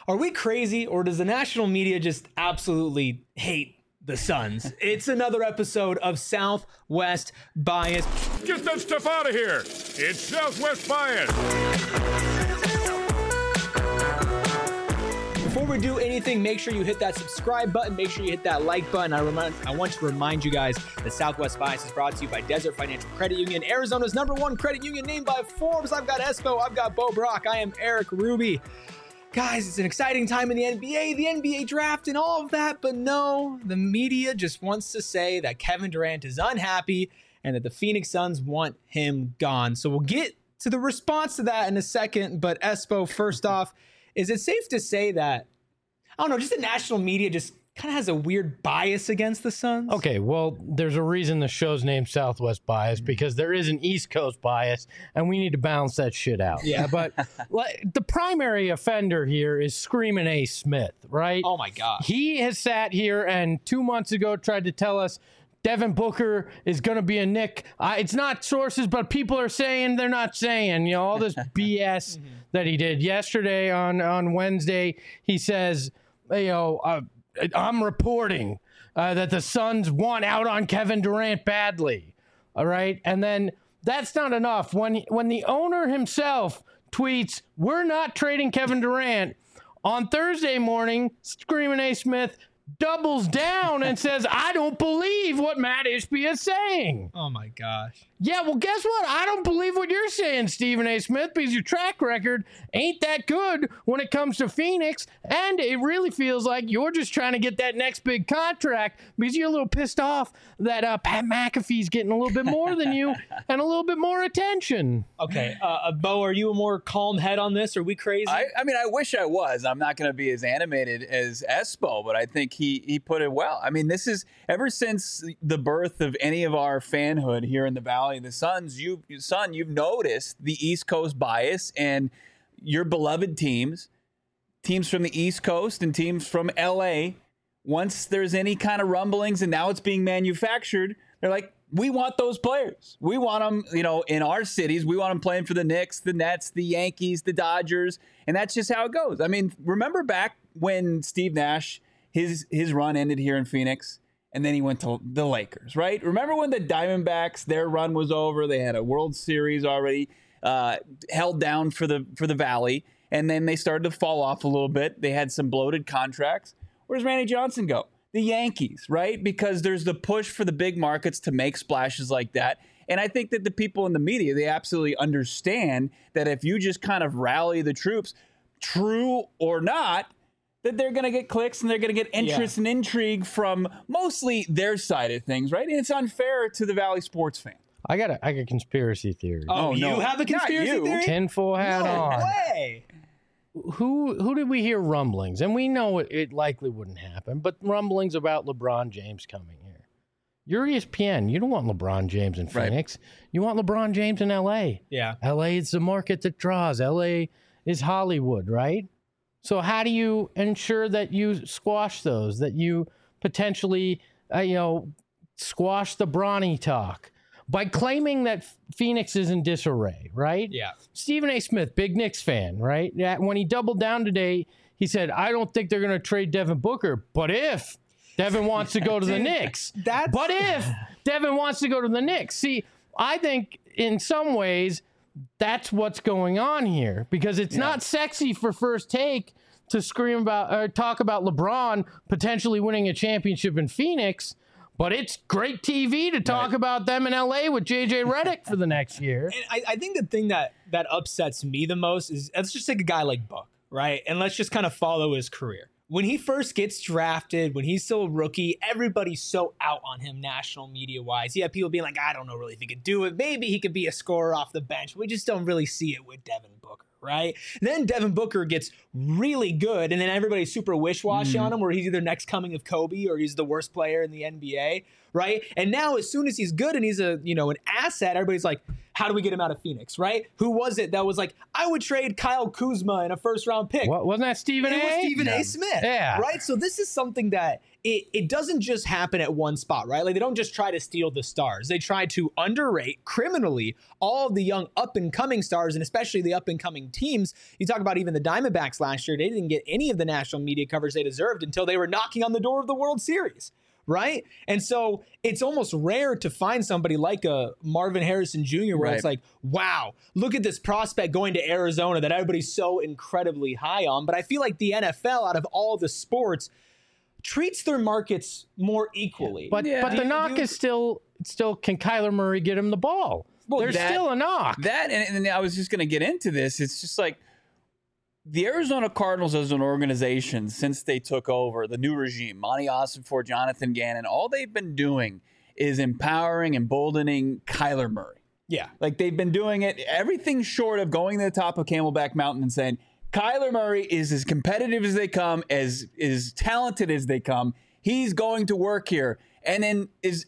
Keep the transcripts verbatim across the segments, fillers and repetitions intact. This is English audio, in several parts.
Are we crazy, or does the national media just absolutely hate the Suns? It's another episode of Southwest Bias. Get that stuff out of here. It's Southwest Bias. Before we do anything, make sure you hit that subscribe button. Make sure you hit that like button. I remind, I want to remind you guys that Southwest Bias is brought to you by Desert Financial Credit Union, Arizona's number one credit union, named by Forbes. I've got Espo. I've got Bo Brock. I am Eric Ruby. Guys, it's an exciting time in the N B A, the N B A draft, and all of that. But no, the media just wants to say that Kevin Durant is unhappy and that the Phoenix Suns want him gone. So we'll get to the response to that in a second. But Espo, first off, is it safe to say that, I don't know, just the national media just kind of has a weird bias against the Suns? Okay, well, there's a reason the show's named Southwest Bias, because there is an East Coast bias, and we need to balance that shit out. Yeah. But like, the primary offender here is Screaming A. Smith, right? Oh, my God. He has sat here and two months ago tried to tell us Devin Booker is going to be a Knick. Uh, it's not sources, but people are saying they're not saying, you know, all this B S mm-hmm. that he did. Yesterday on, on Wednesday, he says, you know, uh, I'm reporting uh, that the Suns want out on Kevin Durant badly. All right. And then that's not enough. When, when the owner himself tweets, we're not trading Kevin Durant, on Thursday morning, Screaming A. Smith doubles down and says, I don't believe what Matt Ishbia is saying. Oh, my gosh. Yeah, well, guess what? I don't believe what you're saying, Stephen A. Smith, because your track record ain't that good when it comes to Phoenix, and it really feels like you're just trying to get that next big contract because you're a little pissed off that uh, Pat McAfee's getting a little bit more than you and a little bit more attention. Okay, uh, Bo, are you a more calm head on this? Are we crazy? I, I mean, I wish I was. I'm not going to be as animated as Espo, but I think he he put it well. I mean, this is ever since the birth of any of our fanhood here in the Valley of the Suns, you son, you've noticed the East Coast bias, and your beloved teams, teams from the East Coast and teams from L A, once there's any kind of rumblings and now it's being manufactured, they're like, we want those players. We want them, you know, in our cities. We want them playing for the Knicks, the Nets, the Yankees, the Dodgers, and that's just how it goes. I mean, remember back when Steve Nash, his his run ended here in Phoenix, and then he went to the Lakers, right? Remember when the Diamondbacks, their run was over? They had a World Series already uh, held down for the for the Valley, and then they started to fall off a little bit. They had some bloated contracts. Where does Randy Johnson go? The Yankees, right? Because there's the push for the big markets to make splashes like that. And I think that the people in the media, they absolutely understand that if you just kind of rally the troops, true or not, that they're going to get clicks and they're going to get interest yeah. and intrigue from mostly their side of things, right? And it's unfair to the Valley sports fan. I got a, I got a conspiracy theory. Oh, oh you no. have a conspiracy theory? Tinfoil hat no on. No way. Who who did we hear rumblings? And we know it, it likely wouldn't happen, but rumblings about LeBron James coming here. You're E S P N. You don't want LeBron James in Phoenix. Right. You want LeBron James in L A. Yeah. L A is the market that draws. L A is Hollywood, right? So how do you ensure that you squash those, that you potentially, uh, you know, squash the Bronny talk? By claiming that Phoenix is in disarray, right? Yeah. Stephen A. Smith, big Knicks fan, right? Yeah, when he doubled down today, he said, I don't think they're going to trade Devin Booker, but if Devin wants to go to the Knicks, that's... but if Devin wants to go to the Knicks. See, I think in some ways that's what's going on here, because it's yeah. not sexy for First Take to scream about or talk about LeBron potentially winning a championship in Phoenix. But it's great T V to talk right. about them in L A with J J Redick for the next year. And I, I think the thing that, that upsets me the most is, let's just take a guy like Book, right? And let's just kind of follow his career. When he first gets drafted, when he's still a rookie, everybody's so out on him national media-wise. You have people being like, I don't know really if he could do it. Maybe he could be a scorer off the bench. We just don't really see it with Devin Booker, right? Then Devin Booker gets really good, and then everybody's super wish-washy mm-hmm. on him, where he's either next coming of Kobe or he's the worst player in the N B A, right? And now as soon as he's good and he's a, you know, an asset, everybody's like, how do we get him out of Phoenix, right? Who was it that was like, I would trade Kyle Kuzma in a first round pick? What, wasn't that Stephen It A? was Stephen Yeah. A. Smith, Yeah. right? So this is something that it, it doesn't just happen at one spot, right? Like they don't just try to steal the stars. They try to underrate criminally all of the young up-and-coming stars, and especially the up-and-coming teams. You talk about even the Diamondbacks last year. They didn't get any of the national media coverage they deserved until they were knocking on the door of the World Series. Right. And so it's almost rare to find somebody like a Marvin Harrison Junior where Right. it's like, wow, look at this prospect going to Arizona that everybody's so incredibly high on. But I feel like the N F L, out of all the sports, treats their markets more equally. But Yeah. but the Do- knock do- is still still can Kyler Murray get him the ball? Well, There's that- still a knock. That and, and I was just going to get into this. It's just like the Arizona Cardinals as an organization, since they took over the new regime, Monty Ossenfort, Jonathan Gannon, all they've been doing is empowering, emboldening Kyler Murray. yeah. Like they've been doing it, everything short of going to the top of Camelback Mountain and saying, Kyler Murray is as competitive as they come, as as talented as they come. He's going to work here. And then is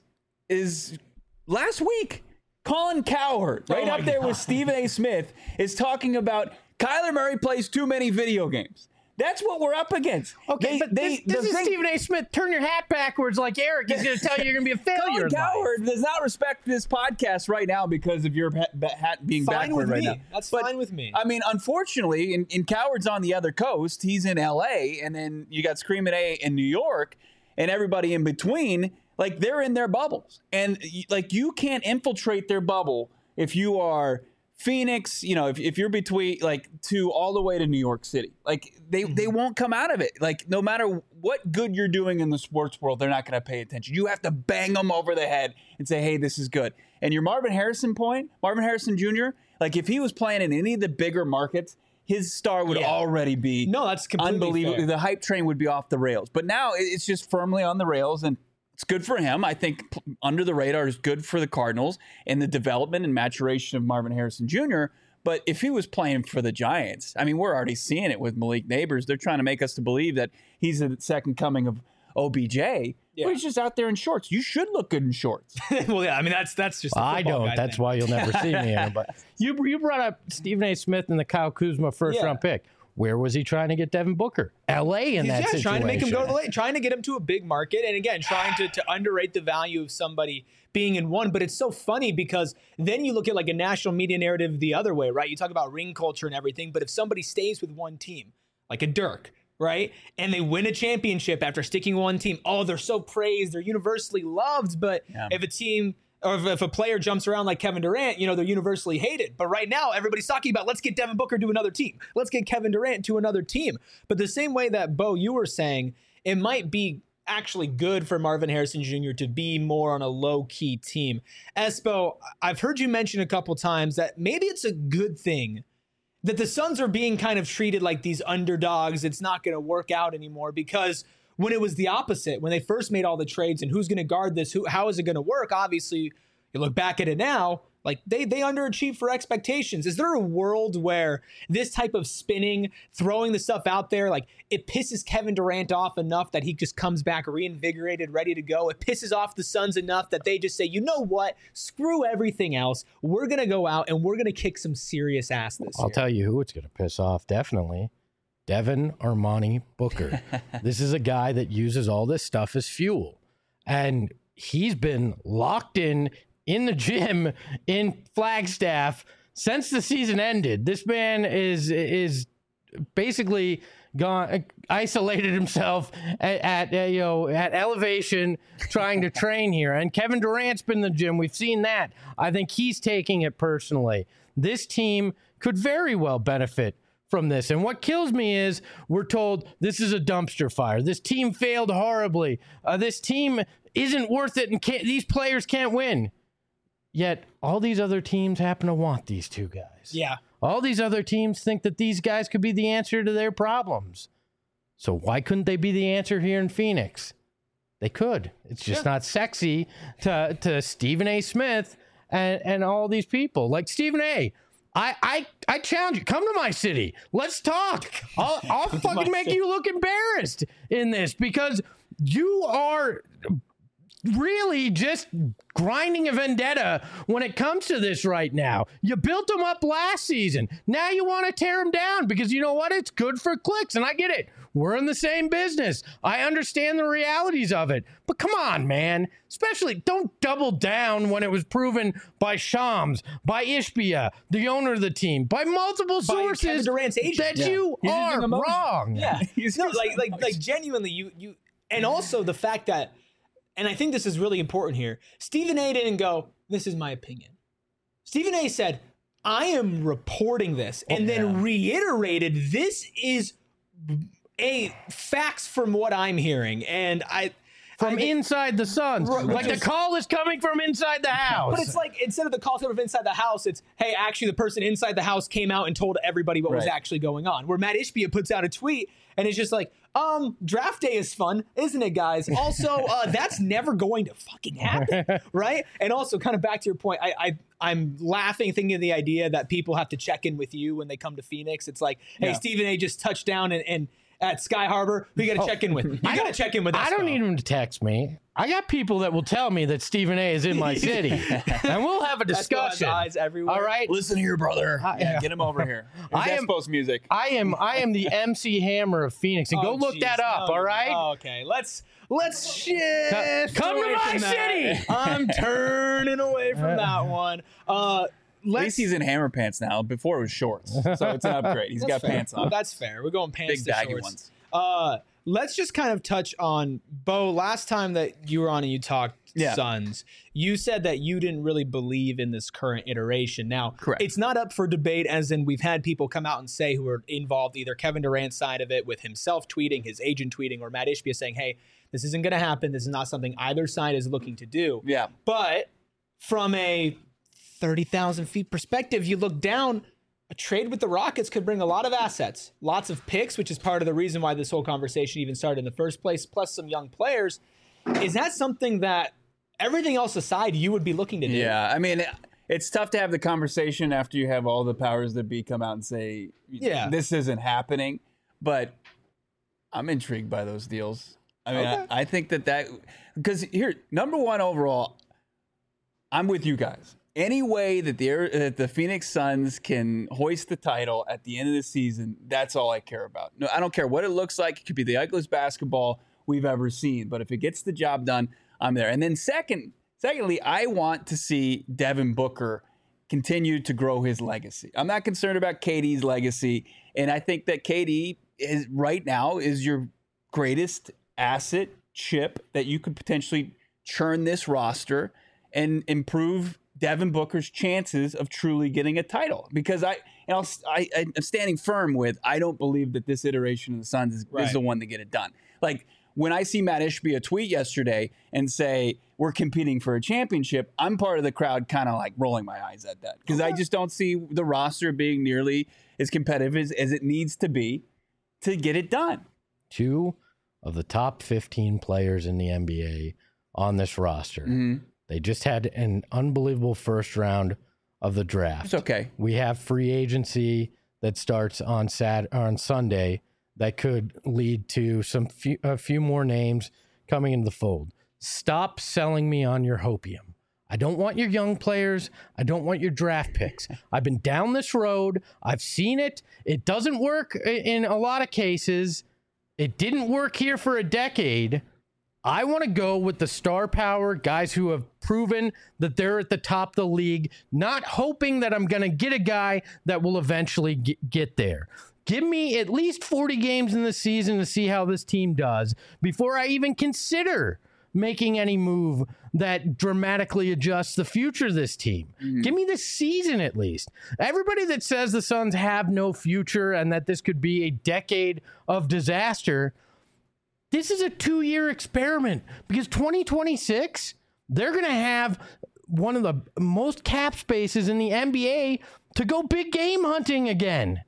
is last week, Colin Cowherd, right my up there God. with Stephen A. Smith, is talking about Kyler Murray plays too many video games. That's what we're up against. Okay, They- but they- this, this the is thing- Stephen A. Smith. Turn your hat backwards like Eric. He's going to tell you you're going to be a failure. Colin in life. Cowherd does not respect this podcast right now because of your hat, hat being Fine backward with right me. now. That's But, fine with me. I mean, unfortunately, in, in Cowherd's on the other coast. He's in L A, and then you got Screamin' A in New York, and everybody in between. Like they're in their bubbles, and y- like you can't infiltrate their bubble if you are Phoenix. You know, if, if you're between like to all the way to New York City, like they they won't come out of it. Like no matter what good you're doing in the sports world, they're not going to pay attention. You have to bang them over the head and say, "Hey, this is good." And your Marvin Harrison point, Marvin Harrison Junior, like if he was playing in any of the bigger markets, his star would Yeah. already be No, that's completely unbelievable. fair. The hype train would be off the rails. But now it- it's just firmly on the rails, and it's good for him. I think p- under the radar is good for the Cardinals and the development and maturation of Marvin Harrison Junior But if he was playing for the Giants, I mean, we're already seeing it with Malik Neighbors. They're trying to make us to believe that he's the second coming of O B J. Yeah. But he's just out there in shorts. You should look good in shorts. Well, yeah, I mean, that's that's just. a I football don't. guy That's thing. why you'll never see me in it. But you you brought up Stephen A. Smith and the Kyle Kuzma first Yeah. round pick. Where was he trying to get Devin Booker? L A in He's, that yeah, situation. trying to make him go to the late, trying to get him to a big market, and again, trying to, to underrate the value of somebody being in one. But it's so funny because then you look at like a national media narrative the other way, right? You talk about ring culture and everything, but if somebody stays with one team, like a Dirk, right, and they win a championship after sticking with one team, oh, they're so praised, they're universally loved. But Yeah. if a team or if, if a player jumps around like Kevin Durant, you know, they're universally hated. But right now, everybody's talking about, let's get Devin Booker to another team. Let's get Kevin Durant to another team. But the same way that, Bo, you were saying, it might be actually good for Marvin Harrison Junior to be more on a low-key team. Espo, I've heard you mention a couple times that maybe it's a good thing that the Suns are being kind of treated like these underdogs. It's not going to work out anymore, because when it was the opposite, when they first made all the trades and who's going to guard this, who, how is it going to work? Obviously, you look back at it now, like they they underachieved for expectations. Is there a world where this type of spinning, throwing the stuff out there, like it pisses Kevin Durant off enough that he just comes back reinvigorated, ready to go? It pisses off the Suns enough that they just say, you know what? Screw everything else. We're going to go out and we're going to kick some serious ass this I'll year. tell you who it's going to piss off, definitely. Devin Armani Booker. This is a guy that uses all this stuff as fuel. And he's been locked in in the gym in Flagstaff since the season ended. This man is is basically gone isolated himself at, at uh, you know at elevation trying to train here. And Kevin Durant's been in the gym. We've seen that. I think he's taking it personally. This team could very well benefit from this. And what kills me is we're told this is a dumpster fire. This team failed horribly. Uh, this team isn't worth it, and can't, these players can't win. Yet all these other teams happen to want these two guys. Yeah. All these other teams think that these guys could be the answer to their problems. So why couldn't they be the answer here in Phoenix? They could. It's just Yeah. not sexy to to Stephen A. Smith and, and all these people. Like Stephen A., I, I I challenge you. Come to my city. Let's talk. I'll, I'll fucking make you look embarrassed in this, because you are really just grinding a vendetta when it comes to this right now. You built them up last season. Now you want to tear them down because you know what? It's good for clicks, and I get it. We're in the same business. I understand the realities of it. But come on, man. Especially don't double down when it was proven by Shams, by Ishbia, the owner of the team, by multiple By Kevin sources Durant's agent. that Yeah. you He's are using emoji. wrong. Yeah. He's no, using like like emoji. like genuinely you you and also the fact that, and I think this is really important here, Stephen A didn't go, this is my opinion. Stephen A said, I am reporting this, and then reiterated this is a facts from what I'm hearing. And I From I think- inside the Suns. Right, like which is- the call is coming from inside the house. But it's like, instead of the call from inside the house, it's, hey, actually the person inside the house came out and told everybody what was Right. actually going on. Where Matt Ishbia puts out a tweet and it's just like, um, draft day is fun, isn't it, guys? Also, uh, that's never going to fucking happen, right? And also, kind of back to your point, I, I I'm laughing thinking of the idea that people have to check in with you when they come to Phoenix. It's like, hey, Yeah. Stephen A just touched down and, and at Sky Harbor, who you got to check in with? You got to check in with us. I don't need him to text me. I got people that will tell me that Stephen A is in my city, and we'll have a discussion. Eyes everywhere. All right. Listen here, brother. I- yeah, get him over here. Here's I am- Espo's music. I am I am the M C Hammer of Phoenix, and go Oh, look geez. that up. No, all right. oh, okay. Let's let's shift. come to away my from that. city. I'm turning away from that one. Uh, At let's. least he's in hammer pants now. Before it was shorts, so it's an upgrade. He's got fair. pants on. That's fair. We're going pants Big to baggy shorts. ones. Uh, let's just kind of touch on Bo. Last time that you were on and you talked Yeah. Suns, you said that you didn't really believe in this current iteration. Now, Correct. it's not up for debate, as in we've had people come out and say who are involved, either Kevin Durant's side of it with himself tweeting, his agent tweeting, or Matt Ishbia saying, hey, this isn't going to happen. This is not something either side is looking to do. Yeah. But from a thirty thousand feet perspective, you look down, a trade with the Rockets could bring a lot of assets, lots of picks, which is part of the reason why this whole conversation even started in the first place, plus some young players. Is that something that, everything else aside, you would be looking to do? Yeah, I mean, it's tough to have the conversation after you have all the powers that be come out and say, Yeah. this isn't happening. But I'm intrigued by those deals. I mean, Okay. I, I think that that, because here, number one overall, I'm with you guys. Any way that the that the Phoenix Suns can hoist the title at the end of the season, that's all I care about. No, I don't care what it looks like. It could be the ugliest basketball we've ever seen, but if it gets the job done, I'm there. And then second, secondly, I want to see Devin Booker continue to grow his legacy. I'm not concerned about K D's legacy, and I think that K D is right now is your greatest asset chip that you could potentially churn this roster and improve Devin Booker's chances of truly getting a title. Because I, and I'll, I, I'm standing firm with, I don't believe that this iteration of the Suns is, Right. is the one to get it done. Like when I see Matt Ishbia tweet yesterday and say, we're competing for a championship, I'm part of the crowd kind of like rolling my eyes at that. Because I just don't see the roster being nearly as competitive as, as it needs to be to get it done. Two of the top fifteen players in the N B A on this roster. Mm-hmm. They just had an unbelievable first round of the draft. It's okay. We have free agency that starts on Sat on Sunday that could lead to some few, a few more names coming into the fold. Stop selling me on your hopium. I don't want your young players. I don't want your draft picks. I've been down this road. I've seen it. It doesn't work i- in a lot of cases. It didn't work here for a decade. I want to go with the star power guys who have proven that they're at the top of the league, not hoping that I'm going to get a guy that will eventually get, get there. Give me at least forty games in the season to see how this team does before I even consider making any move that dramatically adjusts the future of this team. Mm-hmm. Give me this season at least. Everybody that says the Suns have no future and that this could be a decade of disaster, this is a two-year experiment because twenty twenty-six, they're going to have one of the most cap spaces in the N B A to go big game hunting again.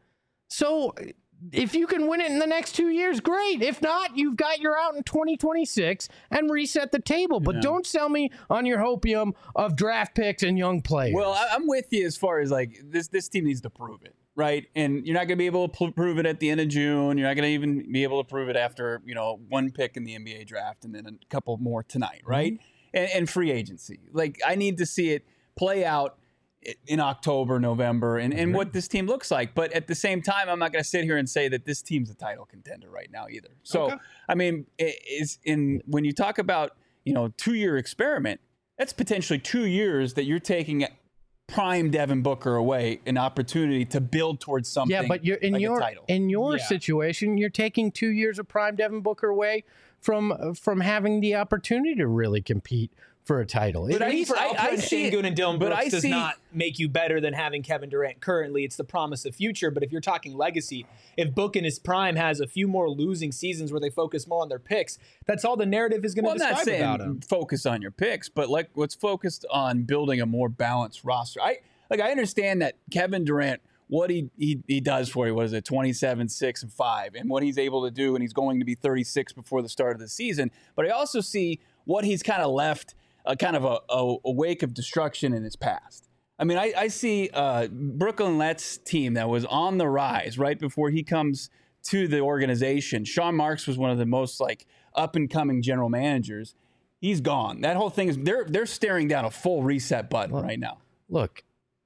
So if you can win it in the next two years, great. If not, you've got your out in twenty twenty-six and reset the table. But don't sell me on your hopium of draft picks and young players. Well, I- I'm with you as far as like this. This team needs to prove it, right? And you're not going to be able to pl- prove it at the end of June. You're not going to even be able to prove it after you know one pick in the N B A draft and then a couple more tonight, right? and, and free agency. Like, I need to see it play out in October, November, and, and what this team looks like. But at the same time, I'm not going to sit here and say that this team's a title contender right now either. So, okay. I mean, is in when you talk about, you know, two-year experiment, that's potentially two years that you're taking prime Devin Booker away, an opportunity to build towards something. Yeah, but you're in like your a title. in your Yeah. situation, you're taking two years of prime Devin Booker away from from having the opportunity to really compete for a title. But At I, least- I, I, I see Sengun it, and Dylan but Brooks I does see- not make you better than having Kevin Durant currently. It's the promise of future. But if you're talking legacy, if Book in his prime has a few more losing seasons where they focus more on their picks, that's all the narrative is going to Well, I'm not describe saying about him. focus on your picks, but like let's focus on building a more balanced roster. I like I understand that Kevin Durant, what he he, he does for you, what is it, twenty-seven, six, and five, and what he's able to do, and he's going to be thirty-six before the start of the season. But I also see what he's kind of left, a kind of a, a, a wake of destruction in his past. I mean, I, I see uh, Brooklyn Nets team that was on the rise right before he comes to the organization. Sean Marks was one of the most like up and coming general managers. He's gone. That whole thing is they're they're staring down a full reset button Well, right now. Look,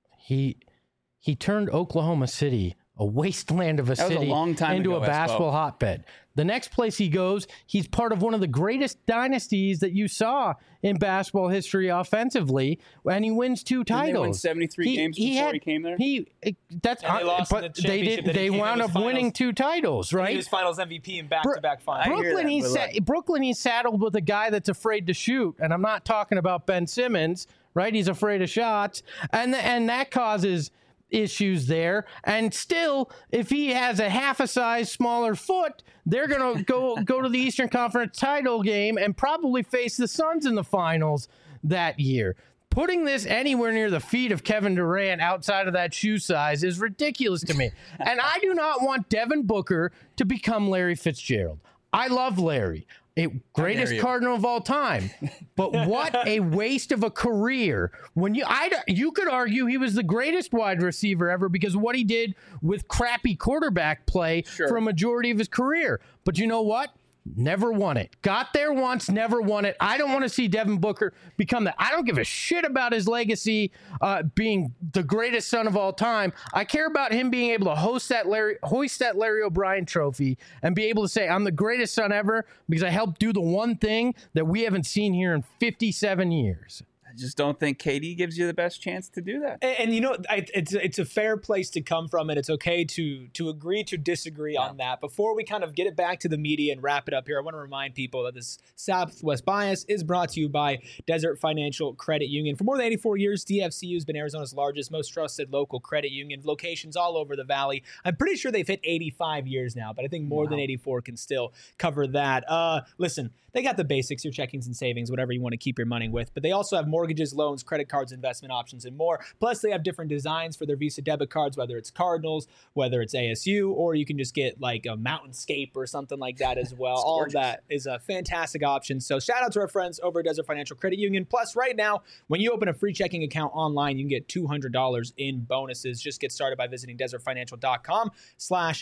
he he turned Oklahoma City, a wasteland of a That was a city, long time into ago, a basketball Espo. hotbed. The next place he goes, he's part of one of the greatest dynasties that you saw in basketball history offensively, and he wins two Didn't titles. they win seventy-three games before he came there? He that's And they lost in but the they championship did. that he They came in wound with up winning finals. two titles, He right? was Finals M V P in back-to-back finals. I hear Brooklyn, that, he's but sa- like- Brooklyn, he's saddled with a guy that's afraid to shoot, and I'm not talking about Ben Simmons, right? He's afraid of shots, and and that causes issues there. And still, if he has a half a size smaller foot, they're gonna go go to the Eastern Conference title game and probably face the Suns in the finals that year. Putting this anywhere near the feet of Kevin Durant outside of that shoe size is ridiculous to me. And I do not want Devin Booker to become Larry Fitzgerald. I love Larry, a greatest you. Cardinal of all time. But what a waste of a career. When you I you could argue he was the greatest wide receiver ever because of what he did with crappy quarterback play Sure. for a majority of his career. But you know what? Never won it. Got there once, never won it. I don't want to see Devin Booker become that. I don't give a shit about his legacy uh, being the greatest son of all time. I care about him being able to host that Larry, hoist that Larry O'Brien trophy and be able to say, I'm the greatest son ever because I helped do the one thing that we haven't seen here in fifty-seven years. I just don't think K D gives you the best chance to do that. And, and you know, I, it's it's a fair place to come from, and it's okay to to agree to disagree Yeah. on that. Before we kind of get it back to the media and wrap it up here, I want to remind people that this Southwest Bias is brought to you by Desert Financial Credit Union. For more than eighty-four years, D F C U has been Arizona's largest, most trusted local credit union, locations all over the valley. I'm pretty sure they've hit eighty-five years now, but I think more than eighty-four can still cover that. Uh, listen, they got the basics, your checkings and savings, whatever you want to keep your money with, but they also have mortgages, loans, credit cards, investment options, and more. Plus, they have different designs for their Visa debit cards, whether it's Cardinals, whether it's A S U, or you can just get like a Mountainscape or something like that as well. All of gorgeous. that is a fantastic option. So shout out to our friends over at Desert Financial Credit Union. Plus, right now, when you open a free checking account online, you can get two hundred dollars in bonuses. Just get started by visiting desertfinancial.com slash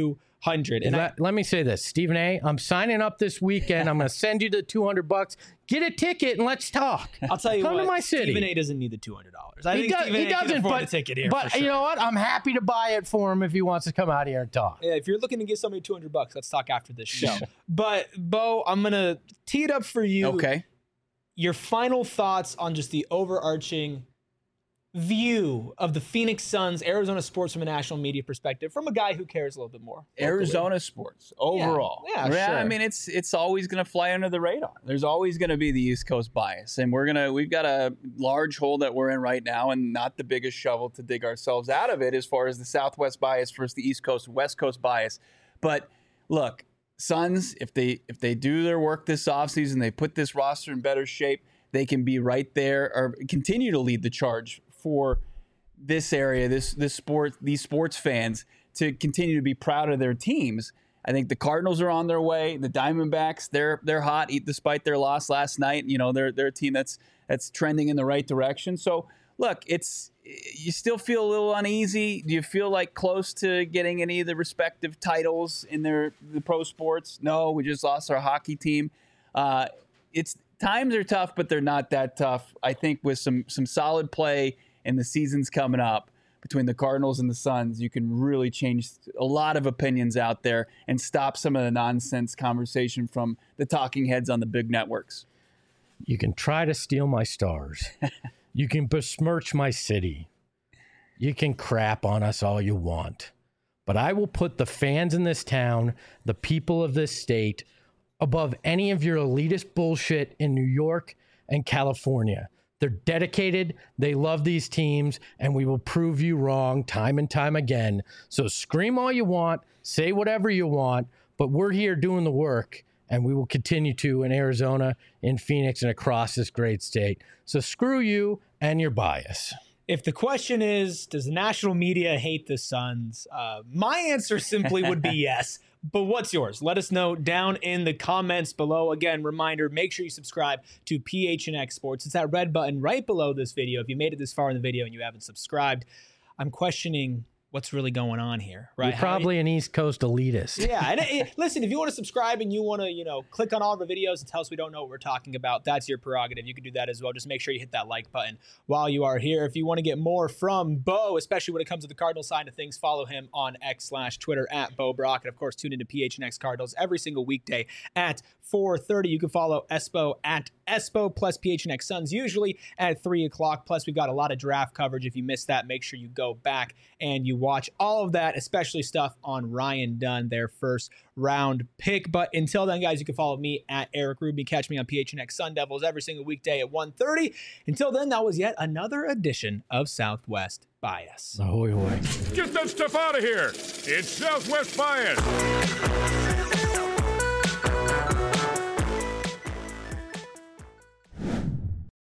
200. And I, let, let me say this, Stephen A., I'm signing up this weekend. I'm going to send you the two hundred bucks. Get a ticket and let's talk. I'll tell you Come what, to my city. Stephen A. doesn't need the two hundred dollars. I He, think does, Stephen he A. can doesn't, afford but, a ticket here but for sure. you know what? I'm happy to buy it for him if he wants to come out here and talk. Yeah, if you're looking to give somebody two hundred bucks, let's talk after this show. But Bo, I'm going to tee it up for you. Okay. Your final thoughts on just the overarching view of the Phoenix Suns, Arizona sports from a national media perspective, from a guy who cares a little bit more. locally. Arizona sports overall. Yeah, yeah, sure. I mean, it's it's always going to fly under the radar. There's always going to be the East Coast bias, and we're gonna we've got a large hole that we're in right now, and not the biggest shovel to dig ourselves out of it as far as the Southwest bias versus the East Coast West Coast bias. But look, Suns, if they if they do their work this offseason, they put this roster in better shape, they can be right there or continue to lead the charge for this area, this this sport, these sports fans to continue to be proud of their teams. I think the Cardinals are on their way. The Diamondbacks, they're they're hot, despite their loss last night. You know, they're they're a team that's that's trending in the right direction. So look, it's you still feel a little uneasy. Do you feel like close to getting any of the respective titles in their the pro sports? No, we just lost our hockey team. Uh, it's times are tough, but they're not that tough. I think with some some solid play and the seasons coming up between the Cardinals and the Suns, you can really change a lot of opinions out there and stop some of the nonsense conversation from the talking heads on the big networks. You can try to steal my stars. You can besmirch my city. You can crap on us all you want. But I will put the fans in this town, the people of this state, above any of your elitist bullshit in New York and California. They're dedicated, they love these teams, and we will prove you wrong time and time again. So scream all you want, say whatever you want, but we're here doing the work, and we will continue to in Arizona, in Phoenix, and across this great state. So screw you and your bias. If the question is, does the national media hate the Suns? Uh, my answer simply would be yes. But what's yours? Let us know down in the comments below. Again, reminder, make sure you subscribe to P H N X Sports. It's that red button right below this video. If you made it this far in the video and you haven't subscribed, I'm questioning what's really going on here, right? You're probably How, an East Coast elitist. Yeah. And it, it, listen, if you want to subscribe and you want to, you know, click on all the videos and tell us we don't know what we're talking about, that's your prerogative. You can do that as well. Just make sure you hit that like button while you are here. If you want to get more from Bo, especially when it comes to the Cardinal side of things, follow him on X slash Twitter at Bo Brock. And of course, tune into P H N X Cardinals every single weekday at four thirty. You can follow Espo at Espo plus P H N X Suns usually at three o'clock. Plus, we've got a lot of draft coverage. If you missed that, make sure you go back and you watch all of that, especially stuff on Ryan Dunn, their first round pick. But until then, guys, you can follow me at Eric Rubin. Catch me on P H N X Sun Devils every single weekday at one thirty. Until then, that was yet another edition of Southwest Bias. Ahoy, hoy. Get that stuff out of here. It's Southwest Bias.